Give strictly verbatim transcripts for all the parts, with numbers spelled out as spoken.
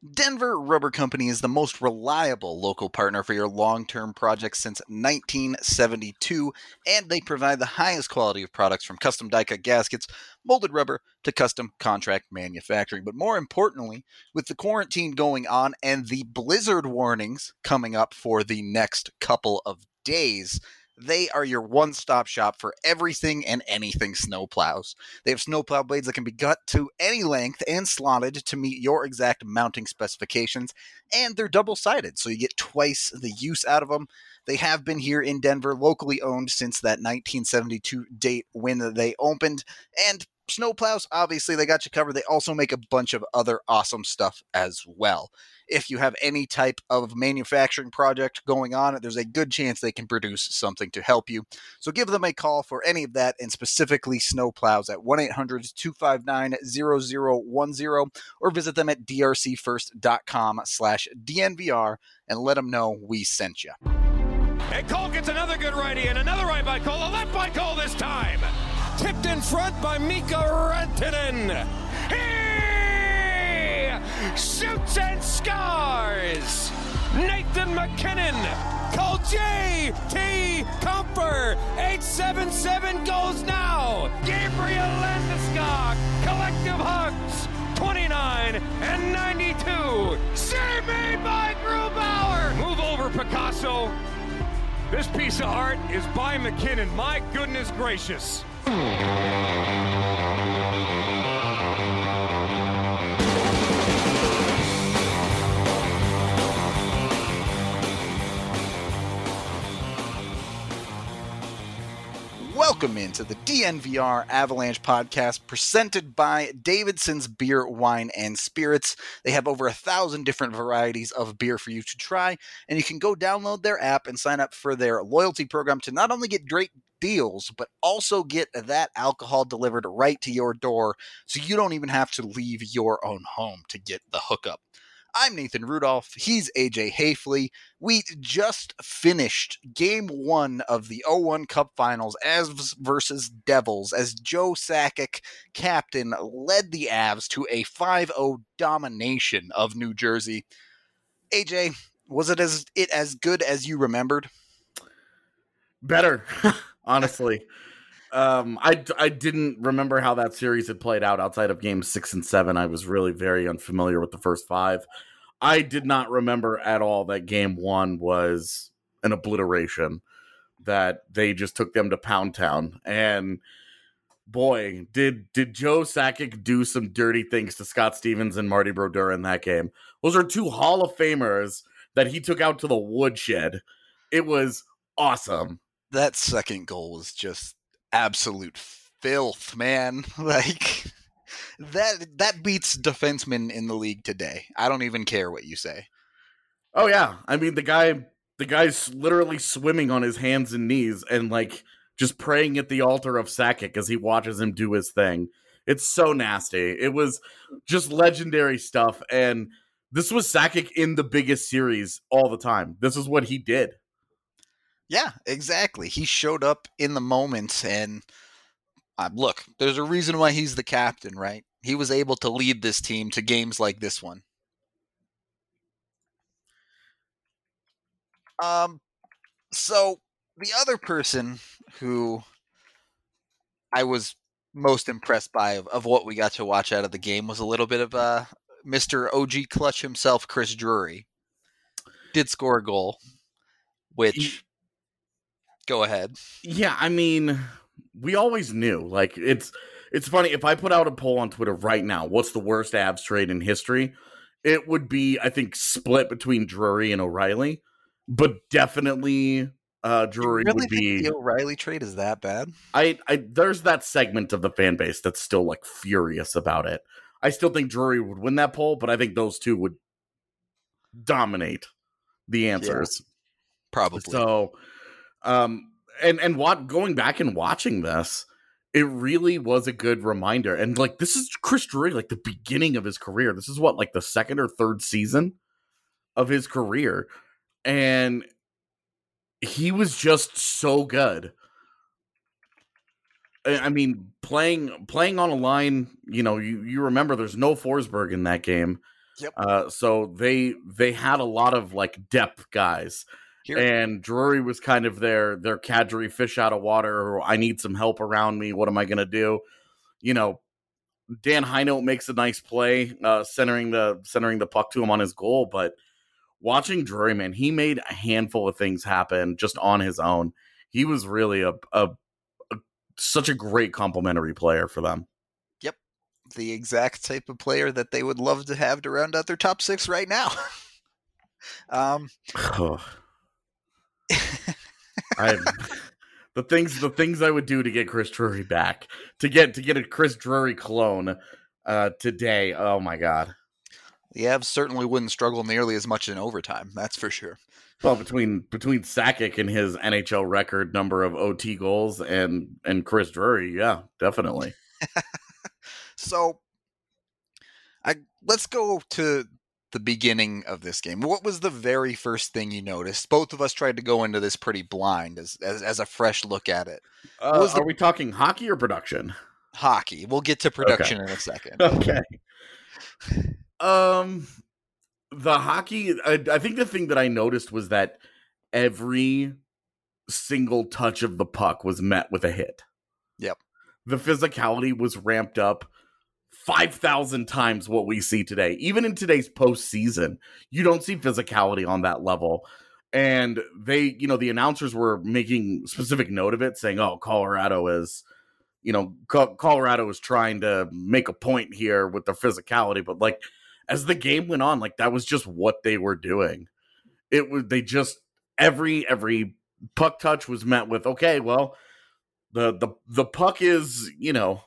Denver Rubber Company is the most reliable local partner for your long-term projects since nineteen seventy-two, and they provide the highest quality of products from custom die-cut gaskets, molded rubber, to custom contract manufacturing. But more importantly, with the quarantine going on and the blizzard warnings coming up for the next couple of days, they are your one-stop shop for everything and anything snowplows. They have snowplow blades that can be cut to any length and slotted to meet your exact mounting specifications, and they're double-sided, so you get twice the use out of them. They have been here in Denver, locally owned since that nineteen seventy-two date when they opened, and snowplows, obviously, they got you covered. They also make a bunch of other awesome stuff as well. If you have any type of manufacturing project going on, there's a good chance they can produce something to help you. So give them a call for any of that, and specifically snowplows, at one eight hundred two five nine zero zero one zero, or visit them at drcfirst.com slash DNVR and let them know we sent you. And Cole gets another good righty, and another right by Cole, a left by Cole this time. Tipped in front by Mika Rantanen. He shoots and scores. Nathan MacKinnon. Call J T Comfer. eight seven seven goes now. Gabriel Landeskog. Collective hugs. twenty-nine and ninety-two. Save made by Grubauer. Move over, Picasso. This piece of art is by MacKinnon. My goodness gracious. Welcome into the D N V R Avalanche podcast presented by Davidson's Beer, Wine, and Spirits. They have over a thousand different varieties of beer for you to try, and you can go download their app and sign up for their loyalty program to not only get great deals, but also get that alcohol delivered right to your door, so you don't even have to leave your own home to get the hookup. I'm Nathan Rudolph. He's A J Hafley. We just finished game one of the oh one Cup Finals, Avs versus Devils, as Joe Sakic, captain, led the Avs to a five oh domination of New Jersey. A J, was it as it as good as you remembered? Better, honestly. Um, I, I didn't remember how that series had played out outside of games six and seven. I was really very unfamiliar with the first five. I did not remember at all that game one was an obliteration, that they just took them to Pound Town. And boy, did did Joe Sakic do some dirty things to Scott Stevens and Marty Brodeur in that game. Those are two Hall of Famers that he took out to the woodshed. It was awesome. That second goal was just absolute filth, man. Like, that that beats defensemen in the league today. I don't even care what you say. Oh yeah, I mean the guy the guy's literally swimming on his hands and knees and like just praying at the altar of Sakic as he watches him do his thing. It's so nasty. It was just legendary stuff, and this was Sakic in the biggest series all the time. This is what he did. Yeah, exactly. He showed up in the moment, and uh, look, there's a reason why he's the captain, right? He was able to lead this team to games like this one. Um, so the other person who I was most impressed by of, of what we got to watch out of the game was a little bit of uh, Mister O G Clutch himself, Chris Drury. Did score a goal, which... He- Go ahead. Yeah, I mean, we always knew. Like, it's it's funny. If I put out a poll on Twitter right now, what's the worst Avs trade in history? It would be, I think, split between Drury and O'Reilly. But definitely uh, Drury you really would be... think the O'Reilly trade is that bad? I, I There's that segment of the fan base that's still, like, furious about it. I still think Drury would win that poll, but I think those two would dominate the answers. Yeah, probably. So... Um, and, and what, going back and watching this, it really was a good reminder. And like, this is Chris Drury, like the beginning of his career. This is what, like the second or third season of his career. And he was just so good. I mean, playing, playing on a line, you know, you, you remember there's no Forsberg in that game. Yep. Uh, so they they had a lot of like depth guys. Here. And Drury was kind of their their Kadri fish out of water. Or I need some help around me. What am I going to do? You know, Dan Heinold makes a nice play, uh, centering the centering the puck to him on his goal. But watching Drury, man, he made a handful of things happen just on his own. He was really a, a, a such a great complimentary player for them. Yep, the exact type of player that they would love to have to round out their top six right now. um. I the things the things I would do to get Chris Drury back, to get to get a Chris Drury clone uh, today. Oh my god! The Avs certainly wouldn't struggle nearly as much in overtime. That's for sure. Well, between between Sakic and his N H L record number of O T goals and and Chris Drury, yeah, definitely. So, I let's go to the beginning of this game. What was the very first thing you noticed? Both of us tried to go into this pretty blind as as, as a fresh look at it. Uh, was the, are we talking hockey or production? Hockey. We'll get to production okay. in a second. Okay. Um, the hockey, I, I think the thing that I noticed was that every single touch of the puck was met with a hit. Yep. The physicality was ramped up five thousand times what we see today. Even in today's postseason, you don't see physicality on that level. And they, you know, the announcers were making specific note of it, saying, oh, Colorado is, you know, Co- Colorado is trying to make a point here with their physicality. But like, as the game went on, like that was just what they were doing. It was, they just, every, every puck touch was met with, okay, well, the, the, the puck is, you know,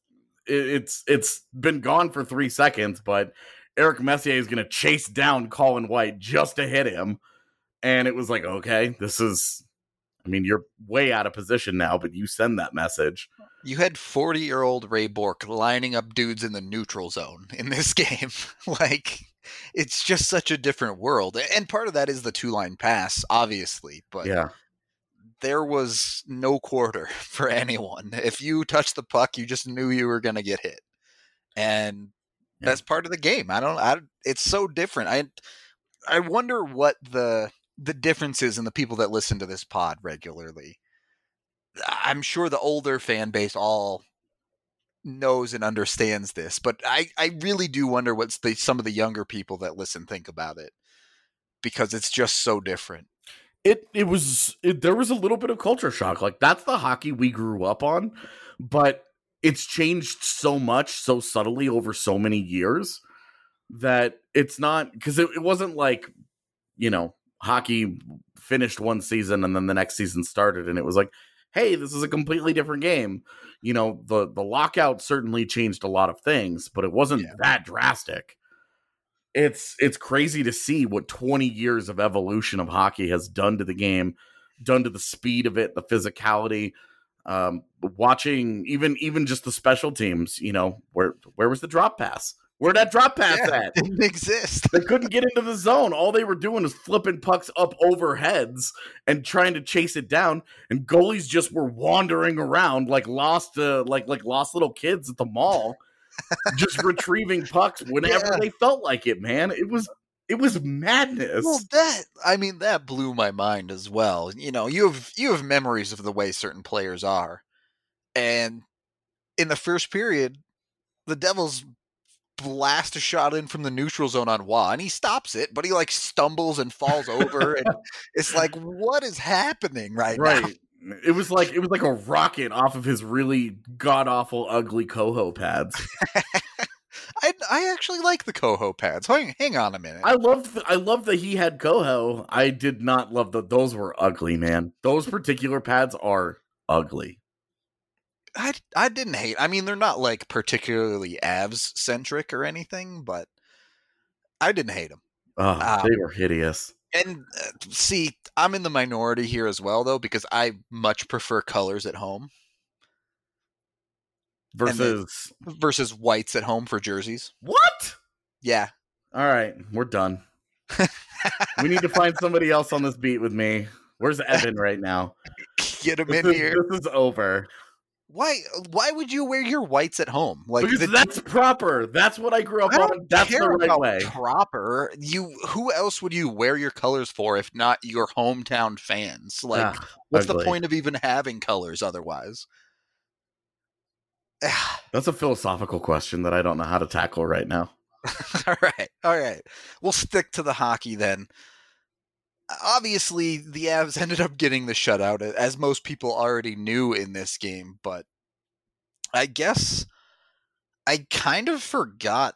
It's it's been gone for three seconds, but Eric Messier is going to chase down Colin White just to hit him. And it was like, okay, this is, I mean, you're way out of position now, but you send that message. You had forty-year-old Ray Bourque lining up dudes in the neutral zone in this game. Like, it's just such a different world. And part of that is the two-line pass, obviously. But yeah. There was no quarter for anyone. If you touched the puck, you just knew you were going to get hit. And yeah. That's part of the game. I don't, I, it's so different. I, I wonder what the, the difference is in the people that listen to this pod regularly. I'm sure the older fan base all knows and understands this, but I, I really do wonder what the, some of the younger people that listen think about it, because it's just so different. It it was it, there was a little bit of culture shock. Like that's the hockey we grew up on, but it's changed so much, so subtly over so many years that it's not, because it, it wasn't like, you know, hockey finished one season and then the next season started and it was like, hey, this is a completely different game. You know, the the lockout certainly changed a lot of things, but it wasn't yeah. that drastic. It's it's crazy to see what twenty years of evolution of hockey has done to the game, done to the speed of it, the physicality. Um, watching even even just the special teams, you know, where where was the drop pass? Where'd that drop pass yeah, at? Didn't exist. They couldn't get into the zone. All they were doing was flipping pucks up over heads and trying to chase it down. And goalies just were wandering around like lost, uh, like like lost little kids at the mall. Just retrieving pucks whenever yeah. they felt like it, man. It was it was madness. Well, that I mean, that blew my mind as well. You know, you have you have memories of the way certain players are, and in the first period, the Devils blast a shot in from the neutral zone on Waugh, and he stops it, but he like stumbles and falls over, and it's like, what is happening right, right. now? It was like it was like a rocket off of his really god awful ugly Coho pads. I I actually like the Coho pads. Hang, hang on a minute. I loved I loved that he had Coho. I did not love that those were ugly, man. Those particular pads are ugly. I I didn't hate. I mean, they're not like particularly Avs centric or anything, but I didn't hate them. Oh, um, they were hideous. And uh, see, I'm in the minority here as well, though, because I much prefer colors at home versus then, versus whites at home for jerseys. What? Yeah. All right, we're done. We need to find somebody else on this beat with me. Where's Evan right now? Get him this in is, here. This is over. Why? Why would you wear your whites at home? Like because the, that's proper. That's what I grew up I don't on. That's care the right about way. proper. You. Who else would you wear your colors for if not your hometown fans? Like, Ah, what's ugly. the point of even having colors otherwise? That's a philosophical question that I don't know how to tackle right now. all right, all right. We'll stick to the hockey then. Obviously, the Avs ended up getting the shutout, as most people already knew in this game, but I guess I kind of forgot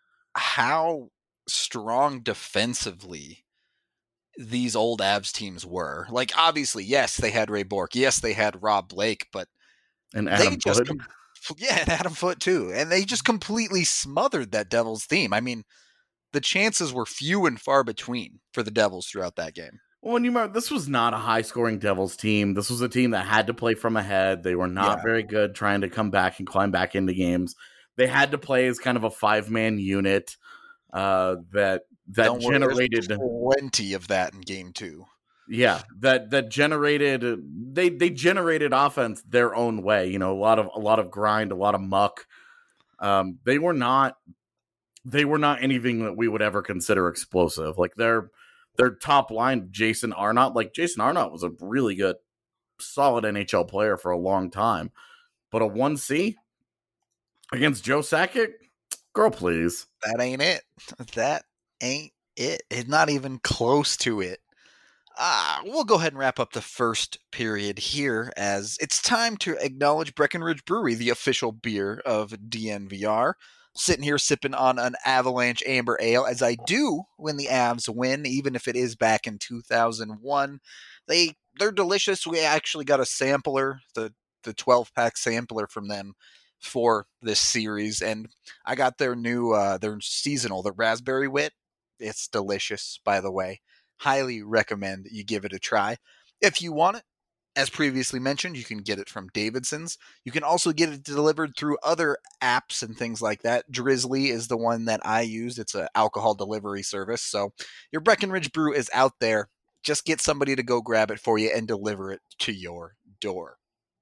how strong defensively these old Avs teams were. Like, obviously, yes, they had Ray Bourque. Yes, they had Rob Blake, but And they Adam just Foote. com- yeah, and Adam Foote too. And they just completely smothered that Devils team. I mean, the chances were few and far between for the Devils throughout that game. Well, and you remember, this was not a high-scoring Devils team. This was a team that had to play from ahead. They were not Yeah. very good trying to come back and climb back into games. They had to play as kind of a five-man unit uh, that that Don't worry, there's generated plenty of that in game two. Yeah, that that generated they they generated offense their own way. You know, a lot of a lot of grind, a lot of muck. Um, they were not they were not anything that we would ever consider explosive. Like their their top line, Jason Arnott. Like Jason Arnott was a really good, solid N H L player for a long time, but a one C against Joe Sakic, girl, please. That ain't it. That ain't it. It's not even close to it. Ah, we'll go ahead and wrap up the first period here, as it's time to acknowledge Breckenridge Brewery, the official beer of D N V R. Sitting here sipping on an Avalanche Amber Ale, as I do when the Avs win, even if it is back in two thousand one. They, they're delicious. We actually got a sampler, the the twelve-pack sampler from them for this series, and I got their new, uh, their seasonal, the Raspberry Wit. It's delicious, by the way. Highly recommend you give it a try. If you want it, as previously mentioned, you can get it from Davidson's. You can also get it delivered through other apps and things like that. Drizzly is the one that I use. It's an alcohol delivery service. So your Breckenridge Brew is out there. Just get somebody to go grab it for you and deliver it to your door.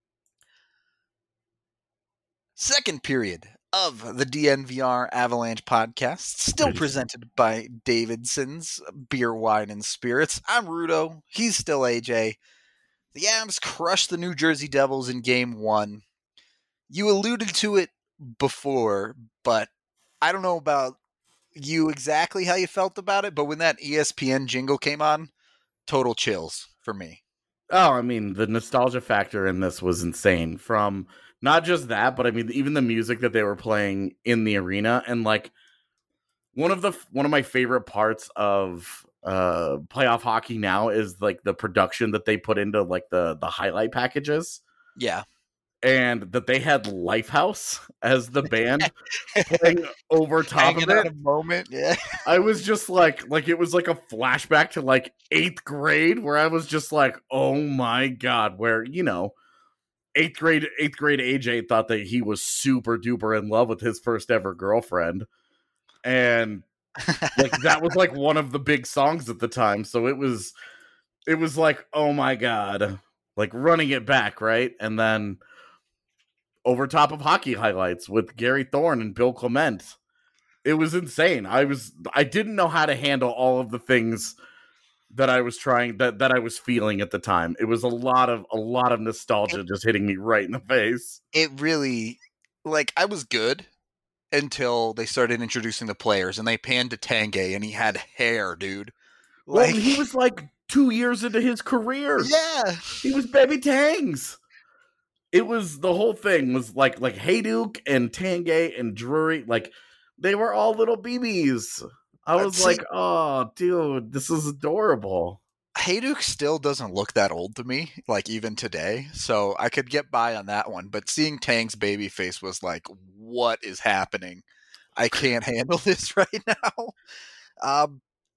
Second period of the D N V R Avalanche podcast, still Nice. presented by Davidson's Beer, Wine, and Spirits. I'm Rudo. He's still A J. The Avs crushed the New Jersey Devils in game one. You alluded to it before, but I don't know about you exactly how you felt about it, but when that E S P N jingle came on, total chills for me. Oh, I mean, the nostalgia factor in this was insane. From not just that, but I mean, even the music that they were playing in the arena, and like one of the one of my favorite parts of uh, playoff hockey now is like the production that they put into like the the highlight packages, Yeah. and that they had Lifehouse as the band playing over top Hanging of out it. a moment. Yeah. I was just like, like it was like a flashback to like eighth grade where I was just like, oh my God, where, you know, eighth grade, eighth grade A J thought that he was super duper in love with his first ever girlfriend. And like, that was like one of the big songs at the time. So it was, it was like, oh my God, like running it back. Right. And then over top of hockey highlights with Gary Thorne and Bill Clement. It was insane. I was I didn't know how to handle all of the things that I was trying that, that I was feeling at the time. It was a lot of a lot of nostalgia It, just hitting me right in the face. it really, like, I was good until they started introducing the players, and they panned to Tanguay, and he had hair, dude. Well, Like, he was like two years into his career. yeah, He was Baby Tangs. It was the whole thing was like like Hayduk and Tanguay and Drury, like they were all little B Bs. I was See, like, oh, dude, this is adorable. Hayduk still doesn't look that old to me, like even today. So I could get by on that one. But seeing Tang's baby face was like, what is happening? I can't handle this right now. Um,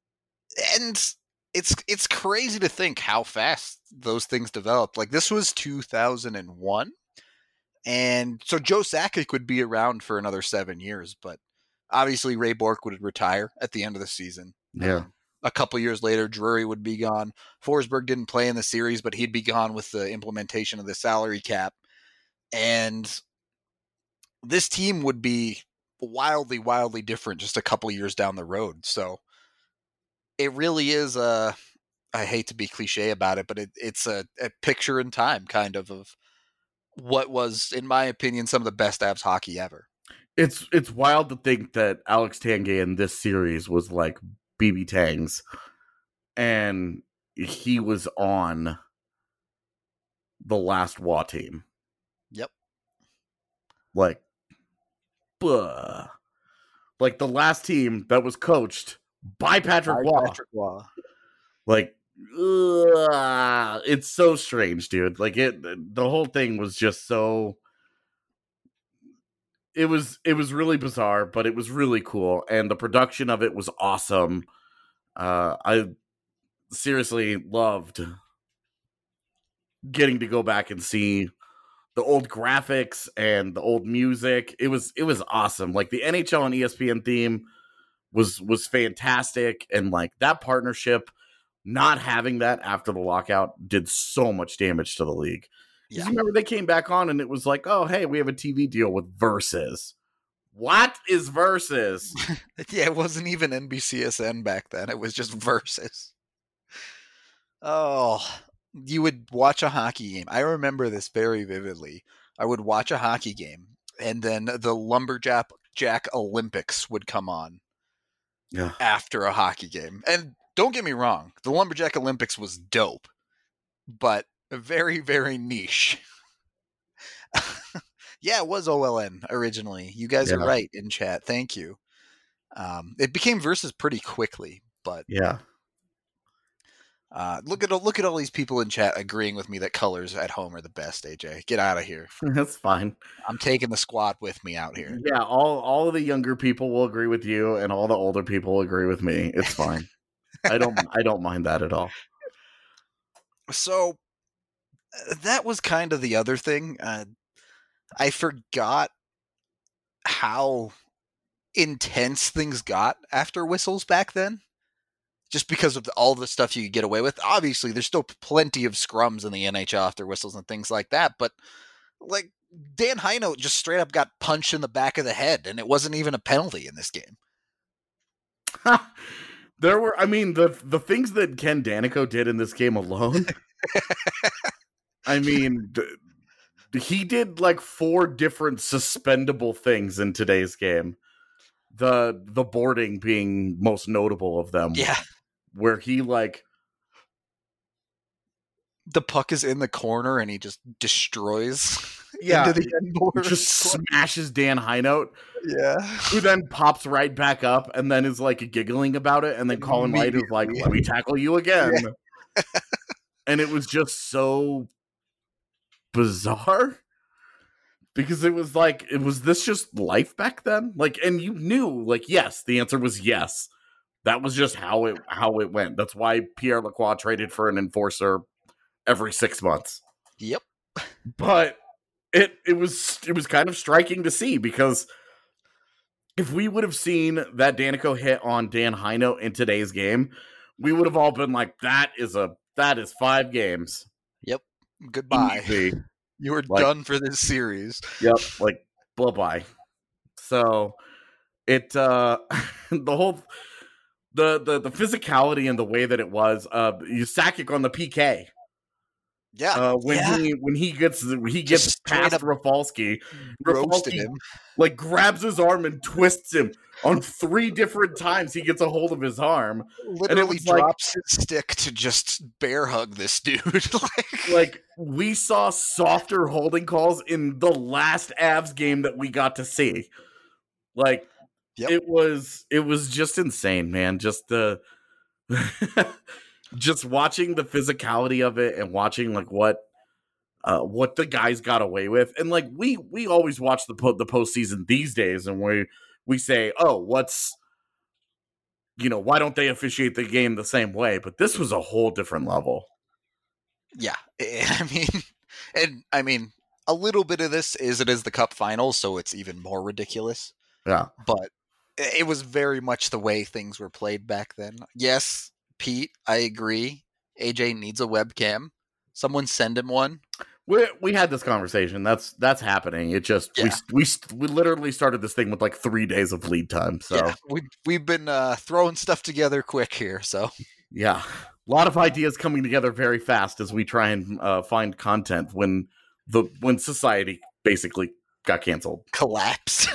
and it's it's crazy to think how fast those things developed. Like this was two thousand one, and so Joe Sakic would be around for another seven years, but obviously Ray Bourque would retire at the end of the season. Yeah. Um, a couple years later, Drury would be gone. Forsberg didn't play in the series, but he'd be gone with the implementation of the salary cap. And this team would be wildly, wildly different just a couple years down the road. So it really is a, I hate to be cliche about it, but it, it's a, a picture in time kind of of what was, in my opinion, some of the best Avs hockey ever. It's it's wild to think that Alex Tanguay in this series was like B B Tangs, and he was on the last W A team. Yep. Like, buh. Like the last team that was coached by Patrick Waugh. Patrick Waugh. Like, ugh, it's so strange, dude. Like it, the whole thing was just so. It was it was really bizarre, but it was really cool, and the production of it was awesome. Uh, I seriously loved getting to go back and see the old graphics and the old music. It was it was awesome. Like the N H L and E S P N theme was was fantastic, and like that partnership, not having that after the lockout did so much damage to the league. Yeah. You remember they came back on and it was like, oh, hey, we have a T V deal with Versus. What is Versus? Yeah, it wasn't even N B C S N back then. It was just Versus. Oh, you would watch a hockey game. I remember this very vividly. I would watch a hockey game, and then the Lumberjack Jack Olympics would come on yeah. after a hockey game. And don't get me wrong, the Lumberjack Olympics was dope, but very, very niche. Yeah, it was O L N originally. You guys yeah. are right in chat. Thank you. Um, it became Versus pretty quickly, but yeah. Uh, look at look at all these people in chat agreeing with me that colors at home are the best. A J, get out of here. That's fine. I'm taking the squad with me out here. Yeah, all all of the younger people will agree with you, and all the older people will agree with me. It's fine. I don't I don't mind that at all. So that was kind of the other thing. Uh, I forgot how intense things got after whistles back then, just because of the, all the stuff you could get away with. Obviously, there's still plenty of scrums in the N H L after whistles and things like that, but like Dan Heinold just straight up got punched in the back of the head, and it wasn't even a penalty in this game. There were, I mean, the the things that Ken Daneyko did in this game alone. I mean, he did like four different suspendable things in today's game. The the boarding being most notable of them. Yeah. Where he like the puck is in the corner and he just destroys yeah, into the end board. Just smashes Dan Heinold. Yeah. Who then pops right back up and then is like giggling about it, and then Colin Wright is like, let me tackle you again. Yeah. And it was just so bizarre. Because it was like, it was this just life back then? Like, and you knew, like, yes, the answer was yes. That was just how it how it went. That's why Pierre Lacroix traded for an enforcer every six months. Yep. But it it was it was kind of striking to see, because if we would have seen that Daneyko hit on Dan Heinold in today's game, we would have all been like, that is a that is five games. Yep. Goodbye. Easy. You were like, done for this series. Yep, like bye bye. So it uh the whole the, the the physicality and the way that it was, uh Sakic on the P K. Yeah. Uh when yeah. he when he gets he gets Just past Rafalski, Rafalski him. like grabs his arm and twists him on three different times. He gets a hold of his arm. Literally and it was drops like, his stick to just bear hug this dude. like, like we saw softer holding calls in the last Avs game that we got to see. Like yep. it was it was just insane, man. Just the just watching the physicality of it and watching like what uh, what the guys got away with. And like we we always watch the po- the postseason these days, and we we say, oh, what's you know, why don't they officiate the game the same way? But this was a whole different level. Yeah, I mean, and I mean, a little bit of this is it is the Cup Finals, so it's even more ridiculous. Yeah, but it was very much the way things were played back then. Yes, Pete, I agree. A J needs a webcam. Someone send him one. We we had this conversation. That's that's happening. It just Yeah. we we we literally started this thing with like three days of lead time. So Yeah, we we've been uh, throwing stuff together quick here. So yeah, a lot of ideas coming together very fast as we try and uh, find content when the when society basically got canceled. collapse.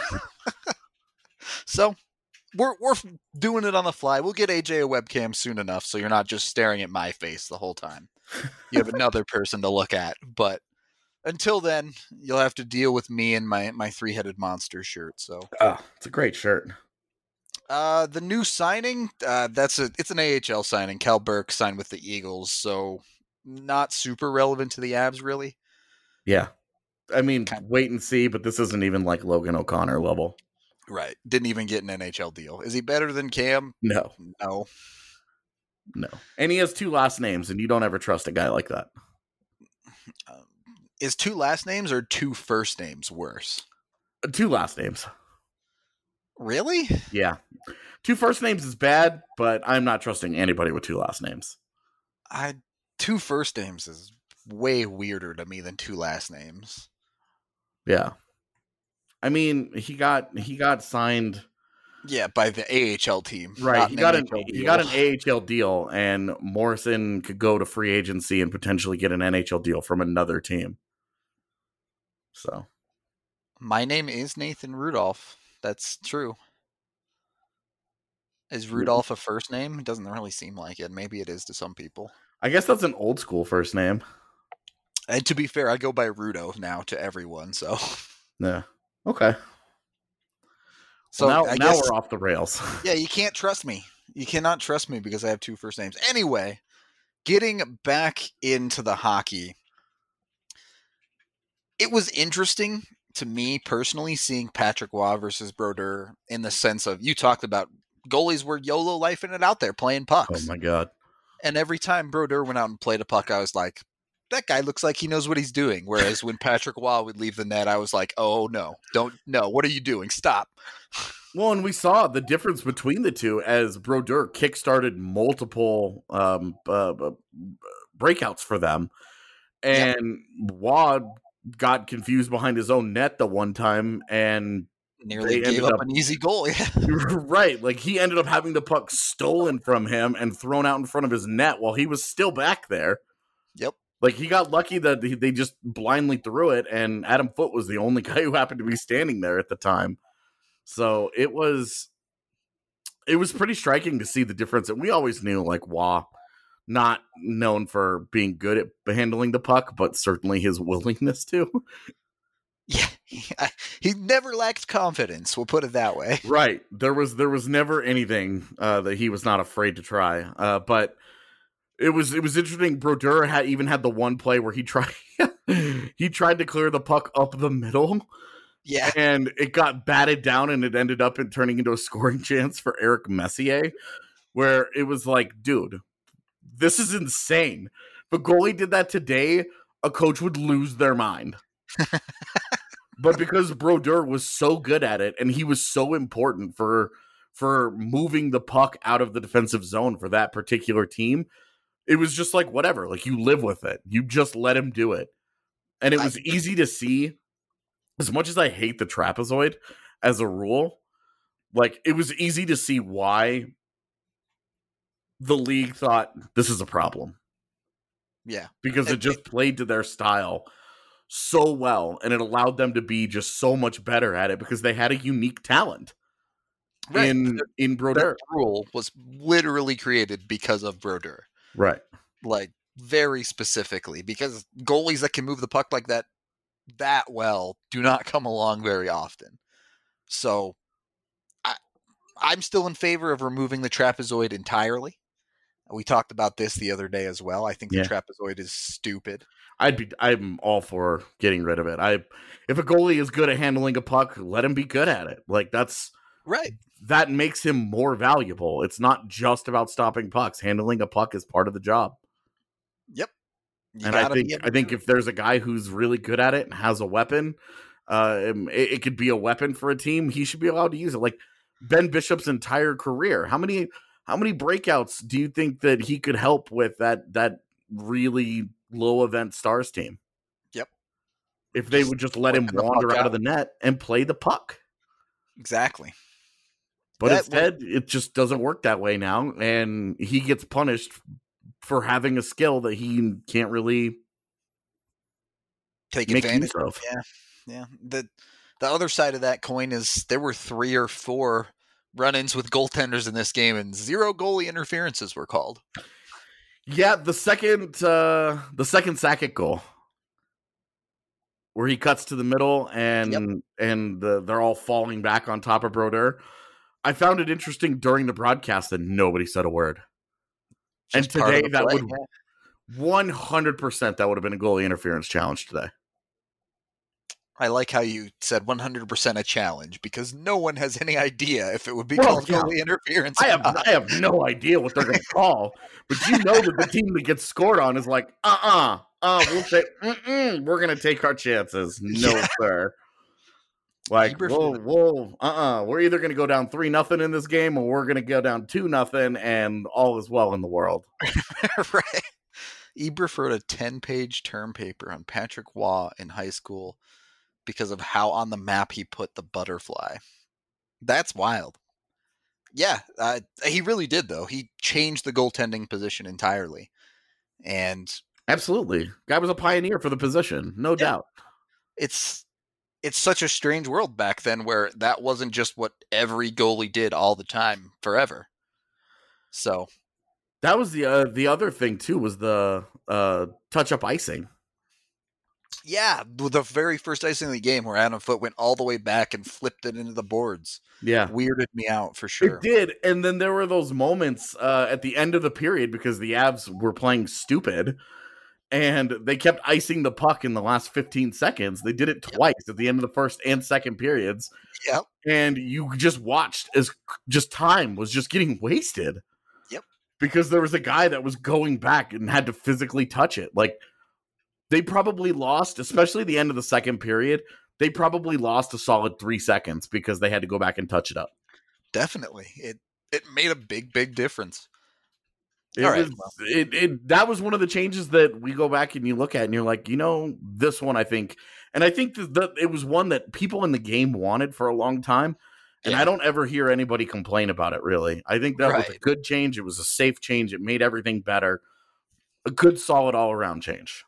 So we're we're doing it on the fly. We'll get A J a webcam soon enough, so you're not just staring at my face the whole time. You have another person to look at. But until then, you'll have to deal with me and my my three headed monster shirt. So Oh, it's a great shirt. uh, the new signing, uh, that's a it's an A H L signing. Cal Burke signed with the Eagles, so not super relevant to the Avs, really. Yeah, I mean, Kind- wait and see. But this isn't even like Logan O'Connor level. Right. Didn't even get an N H L deal. Is he better than Cam? No, No. no. And he has two last names, and you don't ever trust a guy like that. Um, is two last names or two first names worse? Uh, Two last names. Really? Yeah. Two first names is bad, but I'm not trusting anybody with two last names. I two first names is way weirder to me than two last names. Yeah. I mean, he got he got signed Yeah, by the A H L team. right. not He got N an H L he deal. got an A H L deal, and Morrison could go to free agency and potentially get an N H L deal from another team. So My name is Nathan Rudolph. That's true. Is Rudolph a first name? It doesn't really seem like it. Maybe it is to some people. I guess that's an old school first name. And to be fair, I go by Rudo now to everyone. So, Yeah. Okay. so Well, now I now guess, we're off the rails. yeah, you can't trust me. You cannot trust me because I have two first names. Anyway, getting back into the hockey, it was interesting to me personally seeing Patrick Waugh versus Brodeur in the sense of you talked about goalies were YOLO lifing it out there playing Oh pucks. my god. And every time Brodeur went out and played a puck, I was like, that guy looks like he knows what he's doing. Whereas when Patrick Waugh would leave the net, I was like, oh no, don't, no, what are you doing? Stop. Well, and we saw the difference between the two as Brodeur kickstarted multiple um, uh, uh, breakouts for them, and Wad got confused behind his own net the one time, and Nearly They gave ended up, up- an easy goal. Yeah. right, like he ended up having the puck stolen from him and thrown out in front of his net while he was still back there. Yep. Like he got lucky that he, they just blindly threw it, and Adam Foote was the only guy who happened to be standing there at the time. So it was, it was pretty striking to see the difference. And we always knew, like Waugh, not known for being good at handling the puck, but certainly his willingness to. Yeah. He never lacked confidence. We'll put it that way. Right. There was there was never anything uh, that he was not afraid to try. Uh, but it was it was interesting. Brodeur had even had the one play where he tried he tried to clear the puck up the middle, Yeah. and it got batted down, and it ended up in turning into a scoring chance for Eric Messier, where it was like, dude, this is insane. If a goalie did that today, a coach would lose their mind. But because Brodeur was so good at it, and he was so important for for moving the puck out of the defensive zone for that particular team, it was just like, whatever. Like, you live with it. You just let him do it. And it was I- easy to see, as much as I hate the trapezoid as a rule, like, it was easy to see why the league thought this is a problem. Yeah. Because it And- just played to their style so well, and it allowed them to be just so much better at it because they had a unique talent Right. in in Brodeur. That rule was literally created because of Brodeur. Right. Like, very specifically, because goalies that can move the puck like that that well do not come along very often. So I, I'm still in favor of removing the trapezoid entirely. We talked about this the other day as well. I think the Yeah. trapezoid is stupid. I'd be I'm all for getting rid of it. I if a goalie is good at handling a puck, let him be good at it. Like that's Right. that makes him more valuable. It's not just about stopping pucks. Handling a puck is part of the job. Yep. You and I gotta be think able I to think do if there's a guy who's really good at it and has a weapon, uh, um, it, it could be a weapon for a team. He should be allowed to use it. Like Ben Bishop's entire career, how many how many breakouts do you think that he could help with that that really low event Stars team? Yep. if they would just let him Flicking the wander puck out of out. the net and play the puck. Exactly. But That instead, it just doesn't work that way now, and he gets punished for having a skill that he can't really Take make advantage use of. Yeah. Yeah. The the other side of that coin is there were three or four run-ins with goaltenders in this game, and zero goalie interferences were called. Yeah, the second uh, the second Sakic goal, where he cuts to the middle and Yep. and the, they're all falling back on top of Brodeur. I found it interesting during the broadcast that nobody said a word. Just and part of today the that play, would yeah. one hundred percent that would have been a goalie interference challenge today. I like how you said one hundred percent a challenge, because no one has any idea if it would be Well, called yeah. goalie interference. I or have not. I have no idea what they're going to call, but you know that the team that gets scored on is like, uh-uh, uh, we'll say, mm-mm, we're going to take our chances. No, Yeah. sir. Like, Eberflus- whoa, whoa, uh-uh. We're either going to go down three nothing in this game, or we're going to go down two nothing, and all is well in the world. Right. Eberf wrote a ten-page term paper on Patrick Waugh in high school because of how on the map he put the butterfly. That's wild. Yeah, uh, he really did, though. He changed the goaltending position entirely. And Absolutely. Guy was a pioneer for the position, no Yeah. doubt. it's it's such a strange world back then where that wasn't just what every goalie did all the time forever. So, That was the uh, the other thing, too, was the uh, touch-up icing. yeah, the very first icing of the game where Adam Foote went all the way back and flipped it into the boards. Yeah. Weirded me out for sure. It did, and then there were those moments uh, at the end of the period because the Avs were playing stupid, and they kept icing the puck in the last fifteen seconds. They did it twice at the end of the first and second periods. Yep. And you just watched as just time was just getting wasted. Yep. Because there was a guy that was going back and had to physically touch it. Like, they probably lost, especially the end of the second period, they probably lost a solid three seconds because they had to go back and touch it up. Definitely. It it made a big, big difference. It All right, was it, it that was one of the changes that we go back and you look at and you're like, you know, this one I think, and I think that, that it was one that people in the game wanted for a long time, and Yeah. I don't ever hear anybody complain about it. Really, I think that was a Right. good change. It was a safe change. It made everything better. A good, solid, all around change.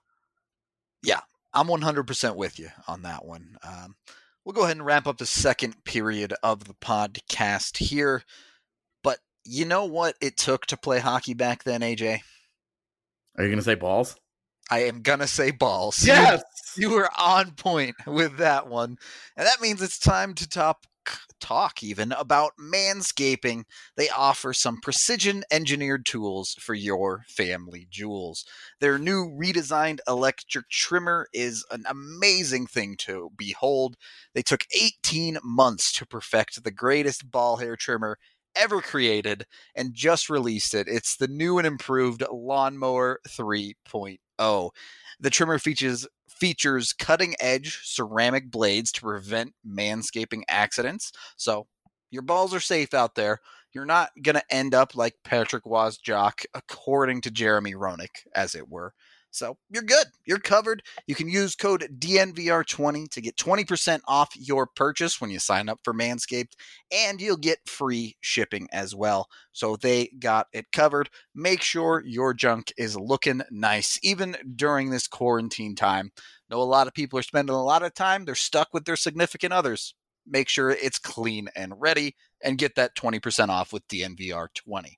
I'm one hundred percent with you on that one. Um, we'll go ahead and wrap up the second period of the podcast here. But you know what it took to play hockey back then, A J? Are you going to say balls? I am going to say balls. Yes. You were on point with that one. And that means it's time to top, talk even about Manscaping. They offer some precision engineered tools for your family jewels. Their new redesigned electric trimmer is an amazing thing to behold. They took eighteen months to perfect the greatest ball hair trimmer ever created and just released it. It's the new and improved Lawnmower three point oh. The trimmer features features cutting-edge ceramic blades to prevent manscaping accidents. So your balls are safe out there. You're not going to end up like Patrick Wozniak, according to Jeremy Roenick, as it were. So you're good. You're covered. You can use code D N V R twenty to get twenty percent off your purchase when you sign up for Manscaped, and you'll get free shipping as well. So they got it covered. Make sure your junk is looking nice, even during this quarantine time. I know a lot of people are spending a lot of time. They're stuck with their significant others. Make sure it's clean and ready, and get that twenty percent off with D N V R twenty.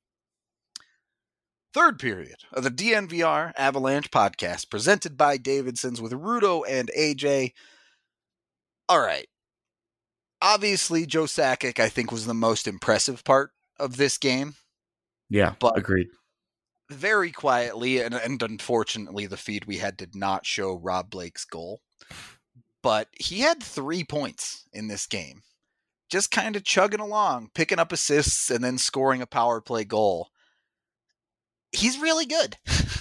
Third period of the D N V R Avalanche podcast, presented by Davidson's with Rudo and A J. All right. Obviously, Joe Sakic, I think, was the most impressive part of this game. Yeah, But- agreed. Very quietly, and, and unfortunately, the feed we had did not show Rob Blake's goal. But he had three points in this game. Just kind of chugging along, picking up assists, and then scoring a power play goal. He's really good.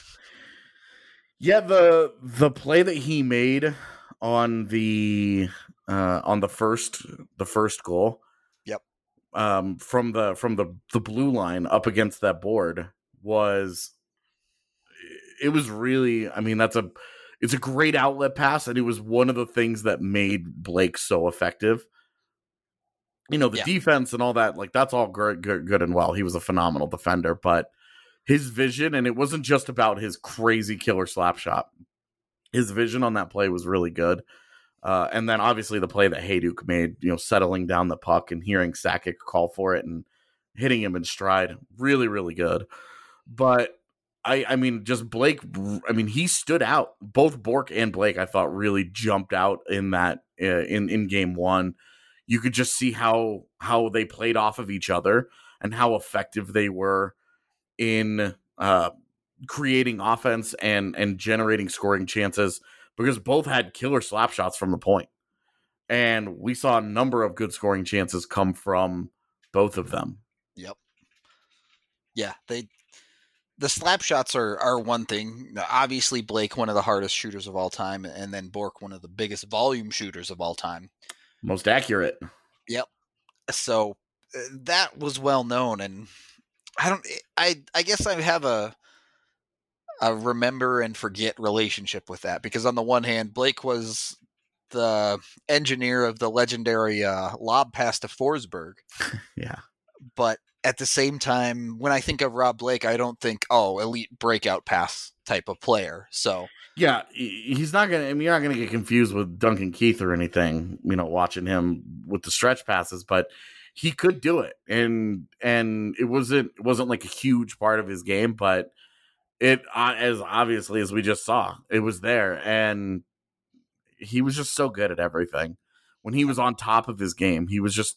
Yeah, the the play that he made on the uh, on the first the first goal. Yep. Um, from the from the the blue line up against that board was it was really. I mean, that's a it's a great outlet pass, and it was one of the things that made Blake so effective. You know, the Yeah. defense and all that, like that's all good, good, good and well. He was a phenomenal defender, but his vision, and it wasn't just about his crazy killer slap shot. His vision on that play was really good. Uh, and then obviously the play that Hayduk made, you know, settling down the puck and hearing Sakic call for it and hitting him in stride, really, really good. But I, I mean, just Blake, I mean, he stood out. Both Bourque and Blake, I thought, really jumped out in that uh, in in game one. You could just see how how they played off of each other and how effective they were in uh, creating offense and and generating scoring chances, because both had killer slap shots from the point. And we saw a number of good scoring chances come from both of them. Yep. Yeah, they the slap shots are are one thing. Obviously, Blake, one of the hardest shooters of all time, and then Bourque, one of the biggest volume shooters of all time. Most accurate. Yep. So uh, that was well known, and I don't. I I guess I have a a remember and forget relationship with that, because on the one hand, Blake was the engineer of the legendary uh, lob pass to Forsberg. Yeah. But at the same time, when I think of Rob Blake, I don't think, oh, elite breakout pass type of player. So yeah, he's not gonna. I mean, you're not gonna get confused with Duncan Keith or anything. You know, watching him with the stretch passes, but he could do it, and and it wasn't it wasn't like a huge part of his game, but it uh, as obviously as we just saw, it was there, and he was just so good at everything. When he was on top of his game, he was just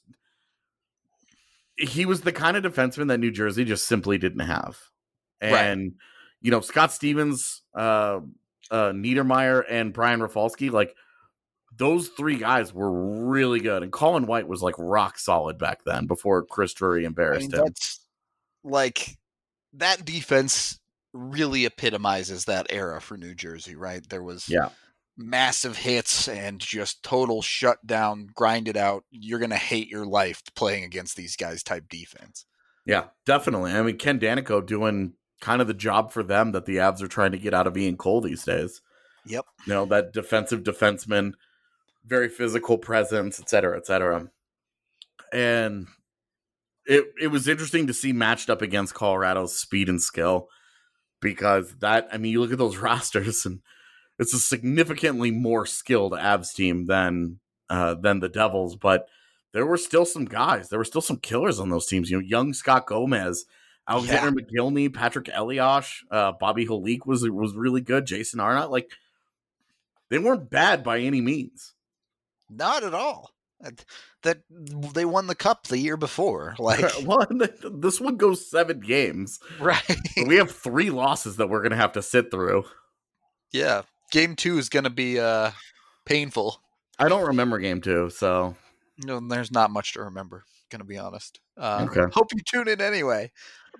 he was the kind of defenseman that New Jersey just simply didn't have, and Right. you know, Scott Stevens, uh, uh, Niedermeyer, and Brian Rafalski, like those three guys were really good, and Colin White was like rock solid back then before Chris Drury I embarrassed mean, him. that's like that defense really epitomizes that era for New Jersey, right? There was Yeah. massive hits and just total shutdown, grind it out. You're going to hate your life playing against these guys type defense. Yeah, definitely. I mean, Ken Danico doing kind of the job for them that the Avs are trying to get out of Ian Cole these days. Yep. You know, that defensive defenseman, very physical presence, et cetera, et cetera. And it it was interesting to see matched up against Colorado's speed and skill, because that, I mean, you look at those rosters and it's a significantly more skilled Avs team than uh, than the Devils, but there were still some guys. There were still some killers on those teams. You know, young Scott Gomez, Alexander yeah. McGillney, Patrick Eliash, uh, Bobby Holik was was really good. Jason Arnott, like they weren't bad by any means. Not at all. That they won the cup the year before. Like, well, this one goes seven games, right? We have three losses that we're gonna have to sit through. Yeah, game two is gonna be uh, painful. I don't remember game two, so no, there's not much to remember. Gonna be honest. Uh, okay. Hope you tune in anyway.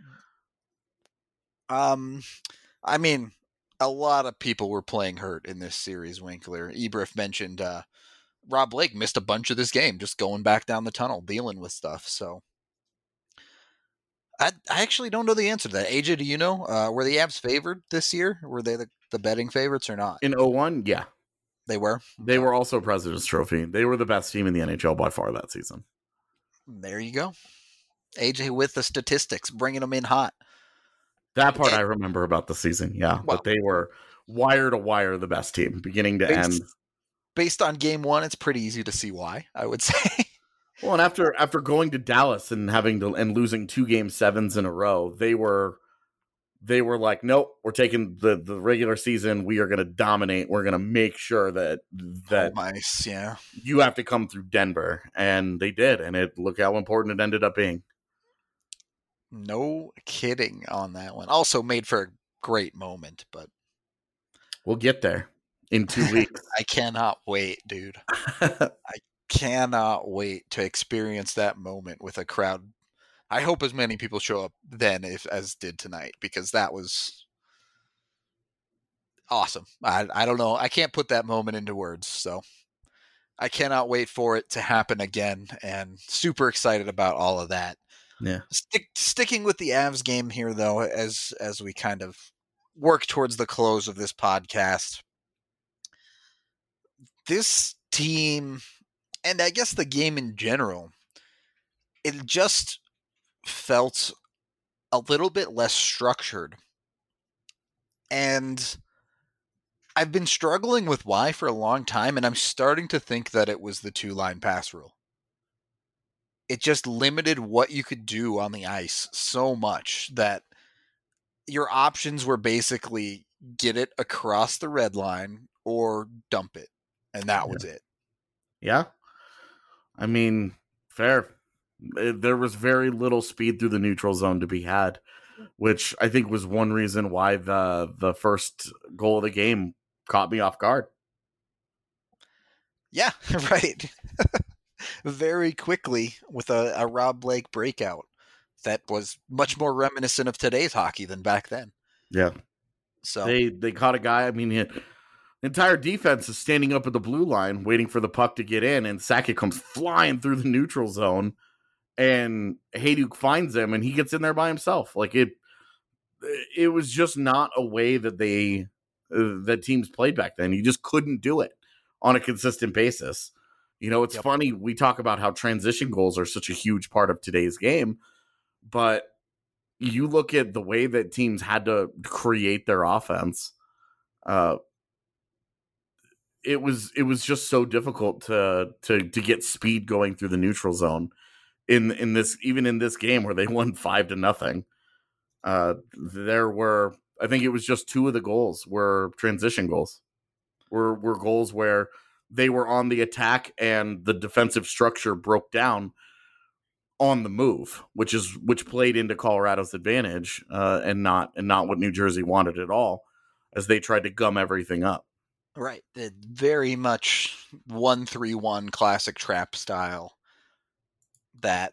Um, I mean, a lot of people were playing hurt in this series. Winkler, Ebrif mentioned. Uh, Rob Blake missed a bunch of this game, just going back down the tunnel, dealing with stuff. So I, I actually don't know the answer to that. A J, do you know? Uh, were the Avs favored this year? Were they the, the betting favorites or not? In oh one, yeah. They were? They were also President's Trophy. They were the best team in the N H L by far that season. There you go. A J with the statistics, bringing them in hot. That part and, I remember about the season, yeah. Well, but they were wire to wire the best team, beginning to based, end. Based on game one, it's pretty easy to see why, I would say. Well, and after after going to Dallas and having to and losing two game sevens in a row, they were they were like, nope, we're taking the, the regular season. We are going to dominate. We're going to make sure that that oh, nice, yeah. you have to come through Denver, and they did. And it look how important it ended up being. No kidding on that one. Also made for a great moment, but we'll get there in two weeks. I cannot wait, dude. I cannot wait to experience that moment with a crowd. I hope as many people show up then if, as did tonight, because that was awesome. I, I don't know. I can't put that moment into words, so I cannot wait for it to happen again, and super excited about all of that. Yeah. Stick, sticking with the Avs game here, though, as as we kind of work towards the close of this podcast, this team, and I guess the game in general, it just felt a little bit less structured. And I've been struggling with why for a long time, and I'm starting to think that it was the two-line pass rule. It just limited what you could do on the ice so much that your options were basically get it across the red line or dump it. And that was it. Yeah. I mean, fair. There was very little speed through the neutral zone to be had, which I think was one reason why the the first goal of the game caught me off guard. Yeah, right. Very quickly with a, a Rob Blake breakout that was much more reminiscent of today's hockey than back then. Yeah. So they they caught a guy. I mean, the entire defense is standing up at the blue line waiting for the puck to get in, and Sakic comes flying through the neutral zone, and Hejduk finds him, and he gets in there by himself. Like it, it was just not a way that they uh, that teams played back then. You just couldn't do it on a consistent basis. You know, it's yep. funny, we talk about how transition goals are such a huge part of today's game, but you look at the way that teams had to create their offense, uh, it was it was just so difficult to to to get speed going through the neutral zone in in this even in this game where they won five to nothing. Uh, there were, I think it was just two of the goals were transition goals, were were goals where they were on the attack and the defensive structure broke down on the move, which is which played into Colorado's advantage, uh, and not and not what New Jersey wanted at all, as they tried to gum everything up. Right, it very much one three one classic trap style that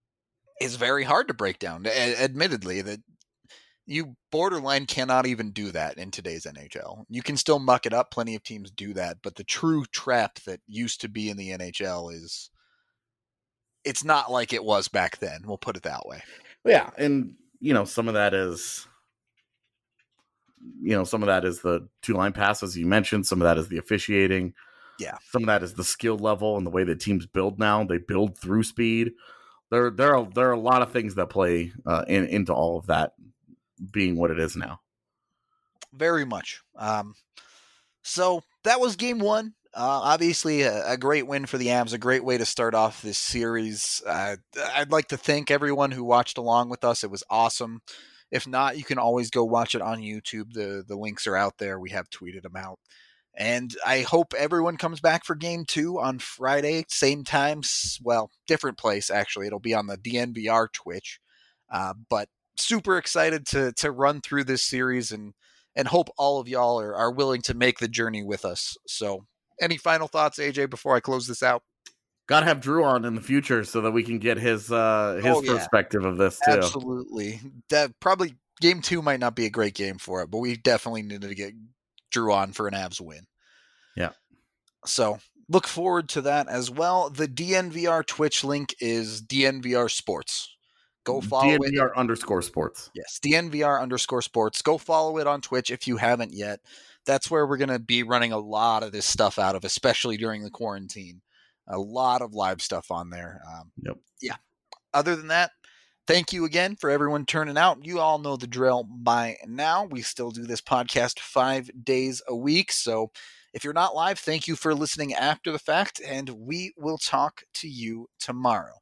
is very hard to break down. A- admittedly, that you borderline cannot even do that in today's N H L. You can still muck it up. Plenty of teams do that. But the true trap that used to be in the N H L is, it's not like it was back then. We'll put it that way. Yeah. And, you know, some of that is, you know, some of that is the two line passes you mentioned. Some of that is the officiating. Yeah. Some of that is the skill level and the way that teams build now. They build through speed. There, there are, there are a lot of things that play uh, in, into all of that being what it is now. Very much. Um, so that was game one. Uh, obviously a, a great win for the Avs, a great way to start off this series. Uh, I'd like to thank everyone who watched along with us. It was awesome. If not, you can always go watch it on YouTube. The, the links are out there. We have tweeted them out. And I hope everyone comes back for game two on Friday, same time. Well, different place, actually. It'll be on the D N V R Twitch. Uh, but super excited to to run through this series and and hope all of y'all are, are willing to make the journey with us. So any final thoughts, A J, before I close this out? Gotta have Drew on in the future so that we can get his uh his oh, yeah. perspective of this too. Absolutely. That probably game two might not be a great game for it, but we definitely needed to get Drew on for an Avs win. Yeah. So look forward to that as well. The D N V R Twitch link is D N V R Sports. Go follow D N V R it. underscore sports. Yes, D N V R underscore sports. Go follow it on Twitch if you haven't yet. That's where we're going to be running a lot of this stuff out of, especially during the quarantine. A lot of live stuff on there. Um, yep. Yeah. Other than that, thank you again for everyone turning out. You all know the drill by now. We still do this podcast five days a week. So if you're not live, thank you for listening after the fact, and we will talk to you tomorrow.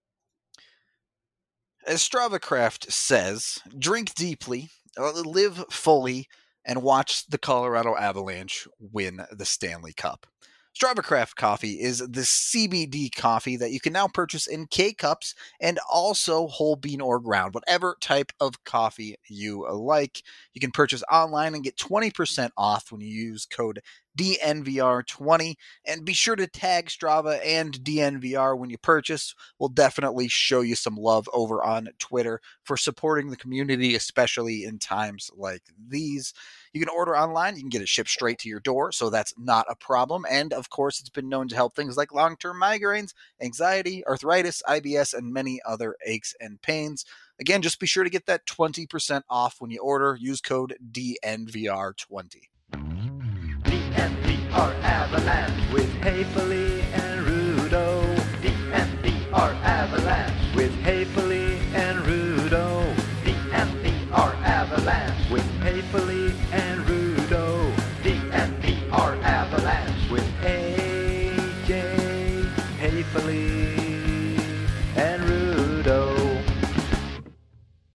As StravaCraft says, drink deeply, live fully, and watch the Colorado Avalanche win the Stanley Cup. StravaCraft coffee is the C B D coffee that you can now purchase in K-Cups and also whole bean or ground, whatever type of coffee you like. You can purchase online and get twenty percent off when you use code D N V R twenty, and be sure to tag Strava and D N V R when you purchase. We'll definitely show you some love over on Twitter for supporting the community, especially in times like these. You can order online. You can get it shipped straight to your door, so that's not a problem. And, of course, it's been known to help things like long-term migraines, anxiety, arthritis, I B S, and many other aches and pains. Again, just be sure to get that twenty percent off when you order. Use code D N V R twenty. D N V R Avalanche with Haefele and Rudo. D N D R Avalanche with Haefele and Rudo. D N D R Avalanche with Haefele and Rudo. D N D R Avalanche with A J Haefele